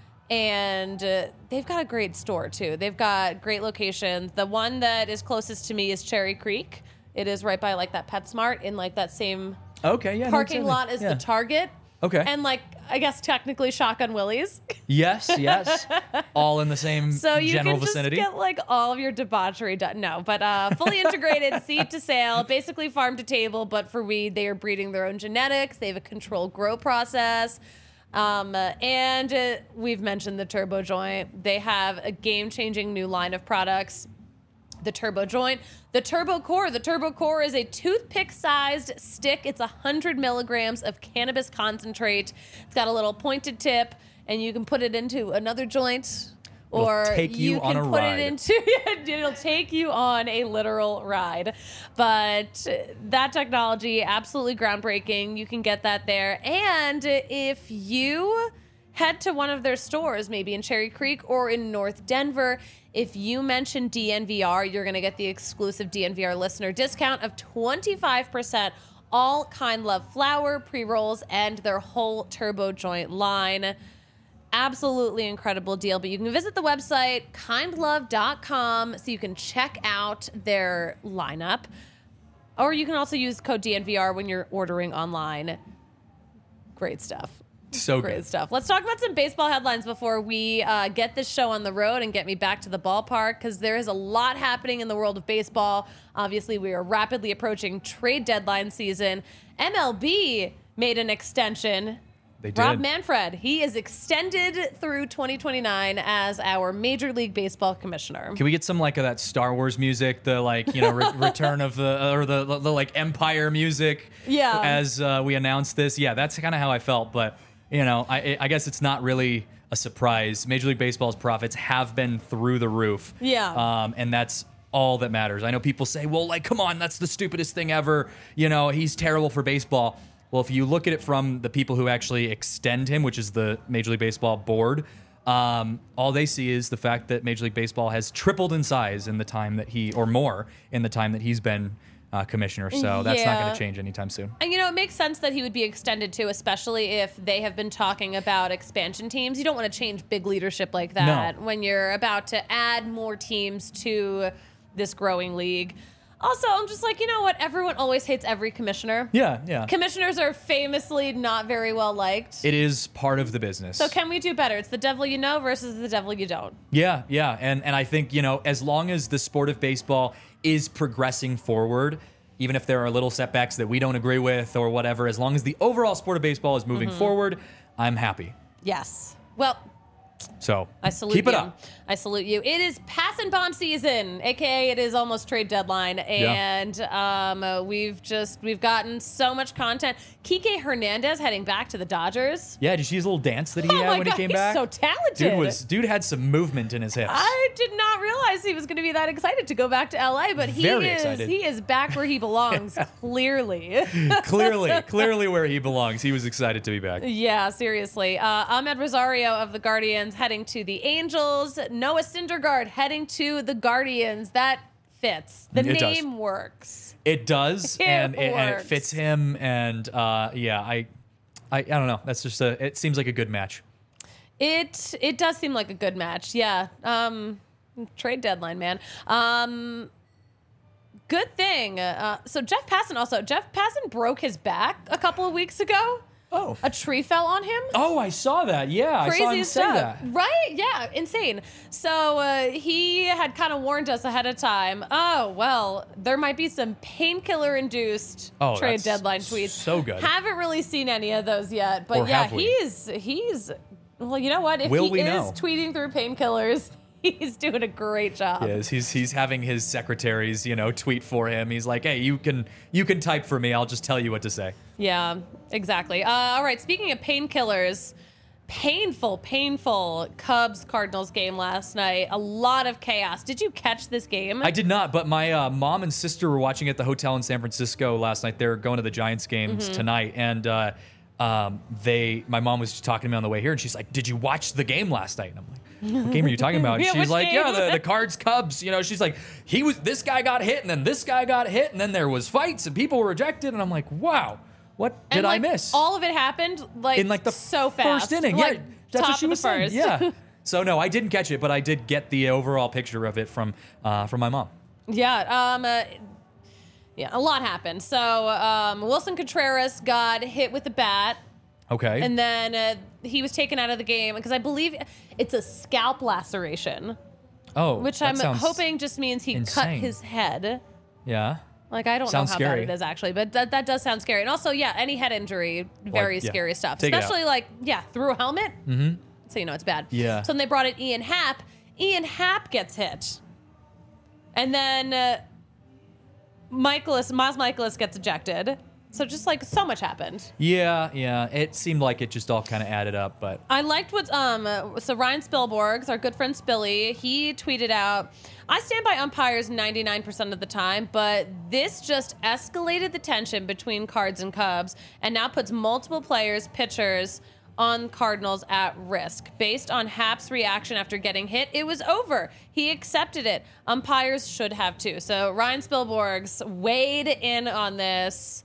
S1: And uh, they've got a great store, too. They've got great locations. The one that is closest to me is Cherry Creek. It is right by, like, that PetSmart in, like, that same
S2: Okay, yeah. no,
S1: parking
S2: certainly.
S1: lot as
S2: Yeah.
S1: the Target.
S2: Okay.
S1: And, like, I guess technically Shotgun Willie's.
S2: Yes, yes. All in the same
S1: So you
S2: general
S1: can just
S2: vicinity.
S1: get like all of your debauchery done. No, but uh, fully integrated, seed to sale, basically farm to table. But for weed, they are breeding their own genetics. They have a controlled grow process. Um, and uh, we've mentioned the Turbo Joint. They have a game-changing new line of products. The Turbo Joint, the Turbo Core. The Turbo Core is a toothpick-sized stick. It's one hundred milligrams of cannabis concentrate. It's got a little pointed tip, and you can put it into another joint,
S2: It'll
S1: or
S2: take you
S1: can
S2: on a
S1: put
S2: ride.
S1: it into. It'll take you on a literal ride. But that technology, absolutely groundbreaking. You can get that there, and if you head to one of their stores, maybe in Cherry Creek or in North Denver. If you mention D N V R, you're going to get the exclusive D N V R listener discount of twenty-five percent. All Kind Love flower, pre-rolls, and their whole Turbo Joint line. Absolutely incredible deal. But you can visit the website, kind love dot com, so you can check out their lineup. Or you can also use code D N V R when you're ordering online. Great stuff.
S2: So
S1: Great
S2: good.
S1: stuff. Let's talk about some baseball headlines before we uh, get this show on the road and get me back to the ballpark, because there is a lot happening in the world of baseball. Obviously, we are rapidly approaching trade deadline season. M L B made an extension.
S2: They did.
S1: Rob Manfred, he is extended through twenty twenty-nine as our Major League Baseball commissioner.
S2: Can we get some like of that Star Wars music, the like you know re- return of the or the, the the like Empire music?
S1: Yeah.
S2: As uh, we announced this, yeah, that's kind of how I felt. But you know, I I guess it's not really a surprise. Major League Baseball's profits have been through the roof.
S1: Yeah.
S2: Um, and that's all that matters. I know people say, well, like, come on, that's the stupidest thing ever. You know, he's terrible for baseball. Well, if you look at it from the people who actually extend him, which is the Major League Baseball board, um, all they see is the fact that Major League Baseball has tripled in size in the time that he, or more, in the time that he's been uh, commissioner. So that's not
S1: Yeah.
S2: going to change anytime soon.
S1: And, you know, it makes sense that he would be extended too, especially if they have been talking about expansion teams. You don't want to change big leadership like that when you're about to add more teams to this growing league. Also, I'm just like, you know what? Everyone always hates every commissioner.
S2: Yeah, yeah.
S1: Commissioners are famously not very well liked.
S2: It is part of the business.
S1: So can we do better? It's the devil you know versus the devil you don't.
S2: Yeah, yeah. And and I think, you know, as long as the sport of baseball is progressing forward, even if there are little setbacks that we don't agree with or whatever, as long as the overall sport of baseball is moving
S1: Mm-hmm.
S2: forward, I'm happy.
S1: Yes. Well,
S2: So
S1: I salute
S2: keep
S1: you.
S2: it up.
S1: I salute you. It is pass and bomb season, aka it is almost trade deadline, and um, uh, we've just we've gotten so much content. Kike Hernandez heading back to the Dodgers.
S2: Yeah, did you see his little dance that he
S1: Oh
S2: had
S1: my
S2: when
S1: God,
S2: he came
S1: he's
S2: back?
S1: so talented.
S2: Dude was dude had some movement in his hips.
S1: I did not realize he was going to be that excited to go back to L A, but he
S2: Very
S1: is
S2: excited.
S1: he is back where he belongs. Clearly.
S2: clearly, clearly where he belongs. He was excited to be back.
S1: Yeah, seriously. Uh, Ahmed Rosario of the Guardians heading to the Angels. Noah Syndergaard heading to the Guardians. That fits. The
S2: It does.
S1: name works.
S2: It does,
S1: It
S2: and, it, and it
S1: works.
S2: fits him. And uh, yeah, I, I, I don't know. That's just a. It seems like a good match.
S1: It it does seem like a good match. Yeah. Um, trade deadline, man. Um, good thing. Uh, so Jeff Passan also. Jeff Passan broke his back a couple of weeks ago.
S2: Oh.
S1: A tree fell on him.
S2: Oh, I saw that. Yeah, I saw him
S1: Crazy
S2: say
S1: stuff,
S2: that.
S1: right? Yeah, insane. So uh, he had kind of warned us ahead of time. Oh well, there might be some painkiller-induced
S2: Oh,
S1: trade
S2: that's
S1: deadline tweets.
S2: so good.
S1: Haven't really seen any of those yet, but
S2: Or
S1: yeah,
S2: have we?
S1: he's he's. Well, you know what? If
S2: Will
S1: he
S2: we
S1: is
S2: know?
S1: tweeting through painkillers, He's doing a great job.
S2: Yes, he's he's having his secretaries, you know, tweet for him. He's like, hey, you can you can type for me. I'll just tell you what to say.
S1: Yeah, exactly. Uh, all right, speaking of painkillers, painful, painful Cubs Cardinals game last night. A lot of chaos. Did you catch this game?
S2: I did not, but my uh, mom and sister were watching at the hotel in San Francisco last night. They're going to the Giants games
S1: Mm-hmm.
S2: tonight, and uh, um, they, my mom was just talking to me on the way here, and she's like, "Did you watch the game last night?" And I'm like, "What game are you talking about?" And
S1: Yeah,
S2: she's
S1: which
S2: like,
S1: game?
S2: "Yeah, the, the Cards Cubs." You know, she's like, "He was this guy got hit, and then this guy got hit, and then there was fights, and people were ejected." And I'm like, "Wow, what did
S1: and, like,
S2: I miss?"
S1: All of it happened like
S2: in like the
S1: so fast.
S2: first inning.
S1: Like,
S2: yeah, that's
S1: top
S2: what she
S1: of
S2: was
S1: the
S2: saying.
S1: first.
S2: Yeah. So no, I didn't catch it, but I did get the overall picture of it from uh, from my mom.
S1: Yeah, um, uh, yeah, a lot happened. So um, Wilson Contreras got hit with the bat,
S2: Okay.
S1: and then uh, he was taken out of the game because I believe it's a scalp laceration,
S2: oh,
S1: which
S2: that
S1: I'm
S2: sounds-
S1: hoping just means he cut
S2: insane.
S1: his head.
S2: Yeah.
S1: Like, I don't
S2: Sounds
S1: know how
S2: scary.
S1: bad it is actually, but that, that does sound scary. And also, yeah, any head injury, very
S2: Like, yeah.
S1: scary stuff.
S2: Take it out.
S1: Especially like, yeah, through a helmet. Mm-hmm. So you know it's bad.
S2: Yeah.
S1: So then they brought in Ian Happ. Ian Happ gets hit. And then uh, Michaelis, Miles Michaelis gets ejected. So just like so much happened.
S2: Yeah, yeah. It seemed like it just all kind of added up, but
S1: I liked what um uh, so Ryan Spilborghs, our good friend Spilly, he tweeted out, "I stand by umpires ninety-nine percent of the time, but this just escalated the tension between Cards and Cubs and now puts multiple players, pitchers on Cardinals at risk. Based on Happ's reaction after getting hit, it was over. He accepted it. Umpires should have too." So Ryan Spilborghs weighed in on this.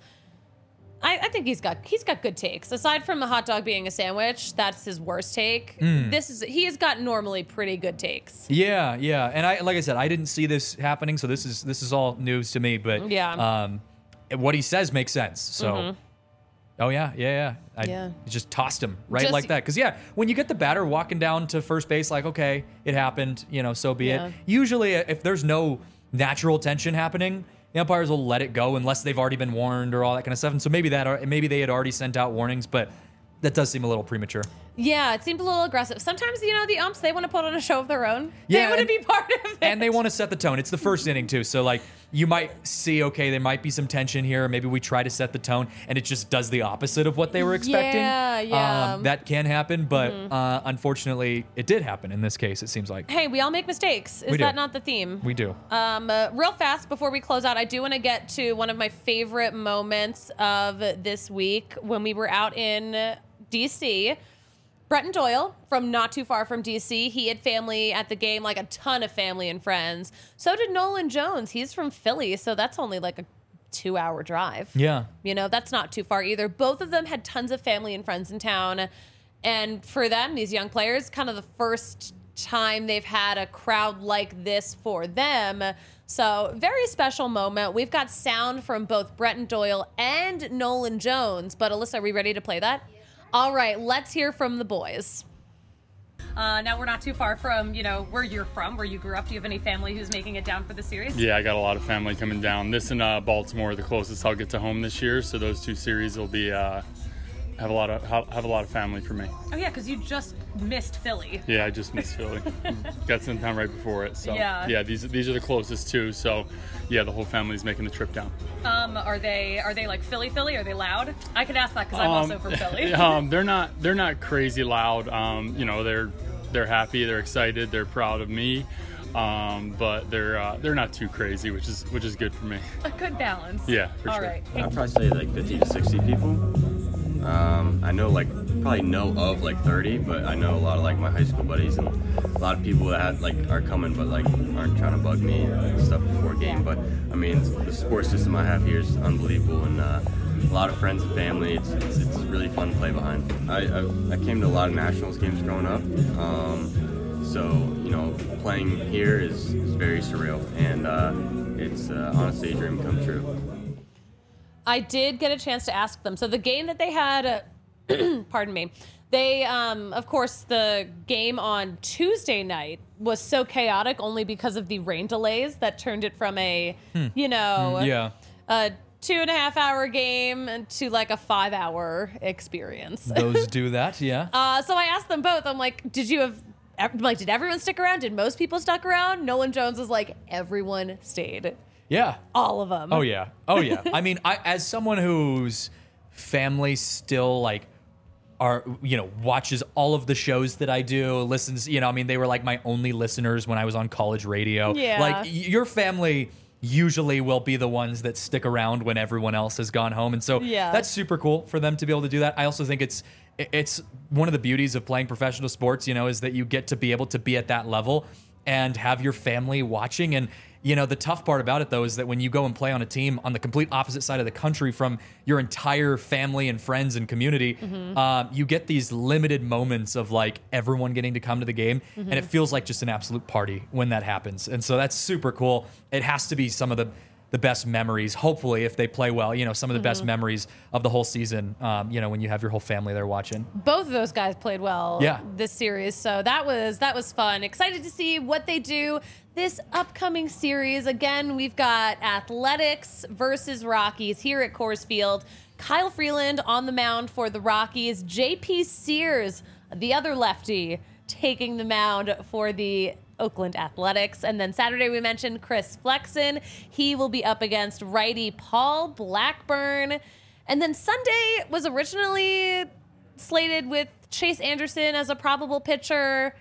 S1: I, I think he's got he's got good takes. Aside from the hot dog being a sandwich, that's his worst take.
S2: Hmm.
S1: This is he has got normally pretty good takes.
S2: yeah, yeah. And I like I said, I didn't see this happening, so this is this is all news to me, but
S1: Yeah.
S2: um what he says makes sense. So Oh yeah, yeah, yeah. I
S1: Yeah.
S2: just tossed him right
S1: Just-
S2: like that. Because yeah, when you get the batter walking down to first base, like okay, it happened, you know, so be
S1: Yeah.
S2: it. Usually, if there's no natural tension happening, the umpires will let it go unless they've already been warned or all that kind of stuff. And so maybe that, maybe they had already sent out warnings, but that does seem a little premature.
S1: Yeah, it seemed a little aggressive. Sometimes, you know, the umps, they want to put on a show of their own.
S2: Yeah,
S1: they want to
S2: and-
S1: be part of it.
S2: And they want to set the tone. It's the first inning too, so like you might see, okay, there might be some tension here. Maybe we try to set the tone, and it just does the opposite of what they were expecting.
S1: Yeah, yeah.
S2: Um, that can happen, but uh, unfortunately, it did happen in this case. It seems like
S1: Hey, we all make mistakes. Is
S2: We do.
S1: that not the theme?
S2: we do.
S1: Um, uh, real fast before we close out, I do want to get to one of my favorite moments of this week when we were out in D C. Bretton Doyle from not too far from D C. He had family at the game, like a ton of family and friends. So did Nolan Jones. He's from Philly, so that's only like a two-hour drive.
S2: Yeah.
S1: You know, that's not too far either. Both of them had tons of family and friends in town. And for them, these young players, kind of the first time they've had a crowd like this for them. So, very special moment. We've got sound from both Bretton Doyle and Nolan Jones. But Alyssa, are we ready to play that? All right, let's hear from the boys. Uh, now we're not too far from, you know, where you're from, where you grew up. Do you have any family who's making it down for the series?
S6: Yeah, I got a lot of family coming down. This and uh, Baltimore are the closest I'll get to home this year, so those two series will be uh, have a lot of have a lot of family for me.
S1: Oh yeah, because you just missed Philly.
S6: Yeah, I just missed Philly. Got sent down right before it, so
S1: Yeah.
S6: yeah. These these are the closest too. So yeah, the whole family's making the trip down.
S1: Um, are they are they like Philly Philly? Are they loud? I can ask that because I'm
S6: Um,
S1: also from Philly.
S6: um, they're not they're not crazy loud. Um, you know, they're they're happy, they're excited, they're proud of me. Um, but they're uh, they're not too crazy, which is which is good for me.
S1: A good balance.
S6: Yeah, for
S1: All
S6: sure.
S1: right.
S7: I'd probably say like fifty to sixty people. Um, I know like probably know of like thirty, but I know a lot of like my high school buddies and a lot of people that had, like are coming but like aren't trying to bug me and stuff before game. But I mean, the support system I have here is unbelievable, and uh, a lot of friends and family. It's, it's it's really fun to play behind. I I, I came to a lot of Nationals games growing up. Um, So, you know, playing here is, is very surreal, and uh, it's uh, honestly a dream come true.
S1: I did get a chance to ask them. So the game that they had, uh, pardon me, they, um, of course, the game on Tuesday night was so chaotic only because of the rain delays that turned it from a, you know,
S2: Yeah.
S1: a two and a half hour game to like a five hour experience.
S2: Those do that, yeah.
S1: Uh, so I asked them both. I'm like, did you have ev- like, did everyone stick around? Did most people stick around? Nolan Jones was like, everyone stayed.
S2: Yeah.
S1: All of them.
S2: Oh yeah. Oh yeah. I mean, I as someone whose family still like are you know watches all of the shows that I do, listens. You know, I mean, they were like my only listeners when I was on college radio.
S1: Yeah.
S2: Like y- your family usually will be the ones that stick around when everyone else has gone home, and so
S1: Yeah.
S2: that's super cool for them to be able to do that. I also think it's it's one of the beauties of playing professional sports. You know, is that you get to be able to be at that level and have your family watching. And you know, the tough part about it, though, is that when you go and play on a team on the complete opposite side of the country from your entire family and friends and community,
S1: Mm-hmm.
S2: um, you get these limited moments of like everyone getting to come to the game. And it feels like just an absolute party when that happens. And so that's super cool. It has to be some of the the best memories, hopefully, if they play well, you know, some of the
S1: Mm-hmm.
S2: best memories of the whole season, um, you know, when you have your whole family there watching.
S1: Both of those guys played well
S2: Yeah.
S1: this series, so that was that was fun. Excited to see what they do this upcoming series. Again, we've got Athletics versus Rockies here at Coors Field. Kyle Freeland on the mound for the Rockies. J P Sears, the other lefty, taking the mound for the Oakland Athletics. And then Saturday we mentioned Chris Flexen. He will be up against righty Paul Blackburn. And then Sunday was originally slated with Chase Anderson as a probable pitcher.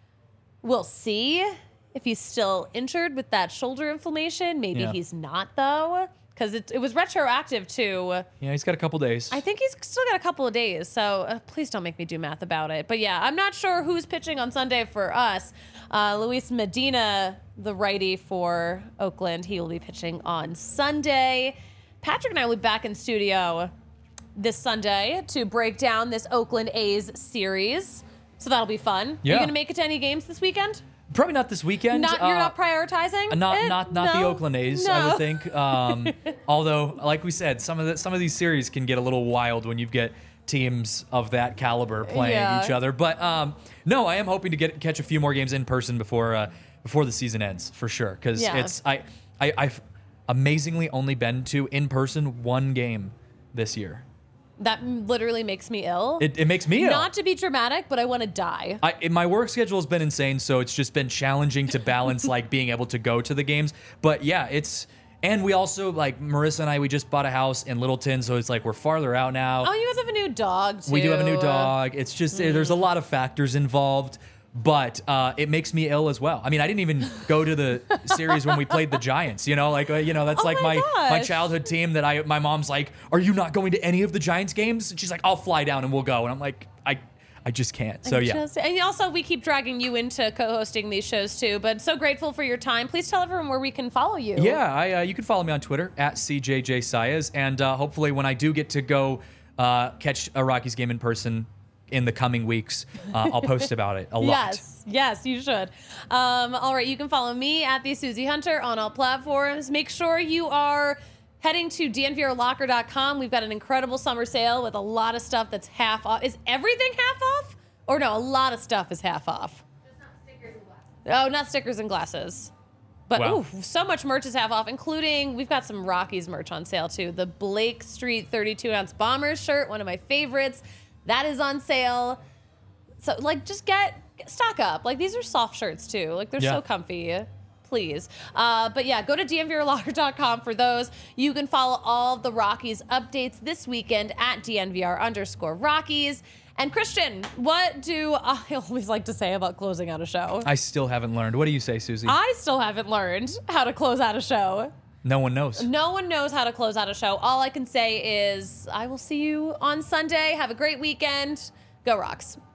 S1: We'll see if he's still injured with that shoulder inflammation. Maybe
S2: Yeah.
S1: he's not, though, because it, it was retroactive to...
S2: Yeah, he's got a couple days.
S1: I think he's still got a couple of days, so uh, please don't make me do math about it. But yeah, I'm not sure who's pitching on Sunday for us. Uh, Luis Medina, the righty for Oakland, he will be pitching on Sunday. Patrick and I will be back in studio this Sunday to break down this Oakland A's series. So that'll be fun.
S2: Yeah.
S1: Are you going to make it to any games this weekend?
S2: Probably not this weekend.
S1: Not you're
S2: Uh,
S1: not prioritizing?
S2: Not
S1: it?
S2: not not the
S1: No.
S2: Oakland A's,
S1: No.
S2: I would think. Um, although, like we said, some of the, some of these series can get a little wild when you get teams of that caliber playing
S1: Yeah.
S2: each other. But um, no, I am hoping to get catch a few more games in person before uh, before the season ends for sure. Because
S1: Yeah.
S2: it's I, I I've amazingly only been to in person one game this year.
S1: That literally makes me ill.
S2: It, it makes me ill.
S1: Not to be dramatic, but I want to die.
S2: I, it- my work schedule has been insane, so it's just been challenging to balance like being able to go to the games. But yeah, it's and we also like Marissa and I we just bought a house in Littleton, so it's like we're farther out now.
S1: Oh, you guys have a new dog, too.
S2: we do have a new dog. It's just eh, there's a lot of factors involved, but uh, it makes me ill as well. I mean, I didn't even go to the series when we played the Giants. You know, like uh, you know that's
S1: Oh
S2: like
S1: my
S2: my my
S1: gosh.
S2: childhood team that I my mom's like, are you not going to any of the Giants games? And she's like, I'll fly down and we'll go. And I'm like, I I just can't. So
S1: I
S2: yeah.
S1: just- and also, we keep dragging you into co-hosting these shows, too. But so grateful for your time. Please tell everyone where we can follow you.
S2: Yeah, I, uh, you can follow me on Twitter at C J J Saez, and uh, hopefully when I do get to go uh, catch a Rockies game in person in the coming weeks, uh, I'll post about it a lot.
S1: Yes, yes, you should. Um, all right, you can follow me at the Susie Hunter on all platforms. Make sure you are heading to D N V R locker dot com. We've got an incredible summer sale with a lot of stuff that's half off. Is everything half off? Or no, a lot of stuff is half off.
S5: Just not stickers and glasses.
S1: Oh, not stickers and glasses. But
S2: Wow.
S1: ooh, so much merch is half off, including we've got some Rockies merch on sale too. The Blake Street thirty-two ounce Bombers shirt, one of my favorites, that is on sale. So like, just get stock up. Like these are soft shirts too. Like they're
S2: Yeah.
S1: so comfy. Please. Uh, but yeah, go to D N V R locker dot com for those. You can follow all of the Rockies updates this weekend at D N V R underscore Rockies. And Christian, what do I always like to say about closing out a show?
S2: I still haven't learned. What do you say, Susie?
S1: I still haven't learned how to close out a show.
S2: no one knows.
S1: No one knows how to close out a show. All I can say is I will see you on Sunday. Have a great weekend. Go Rocks.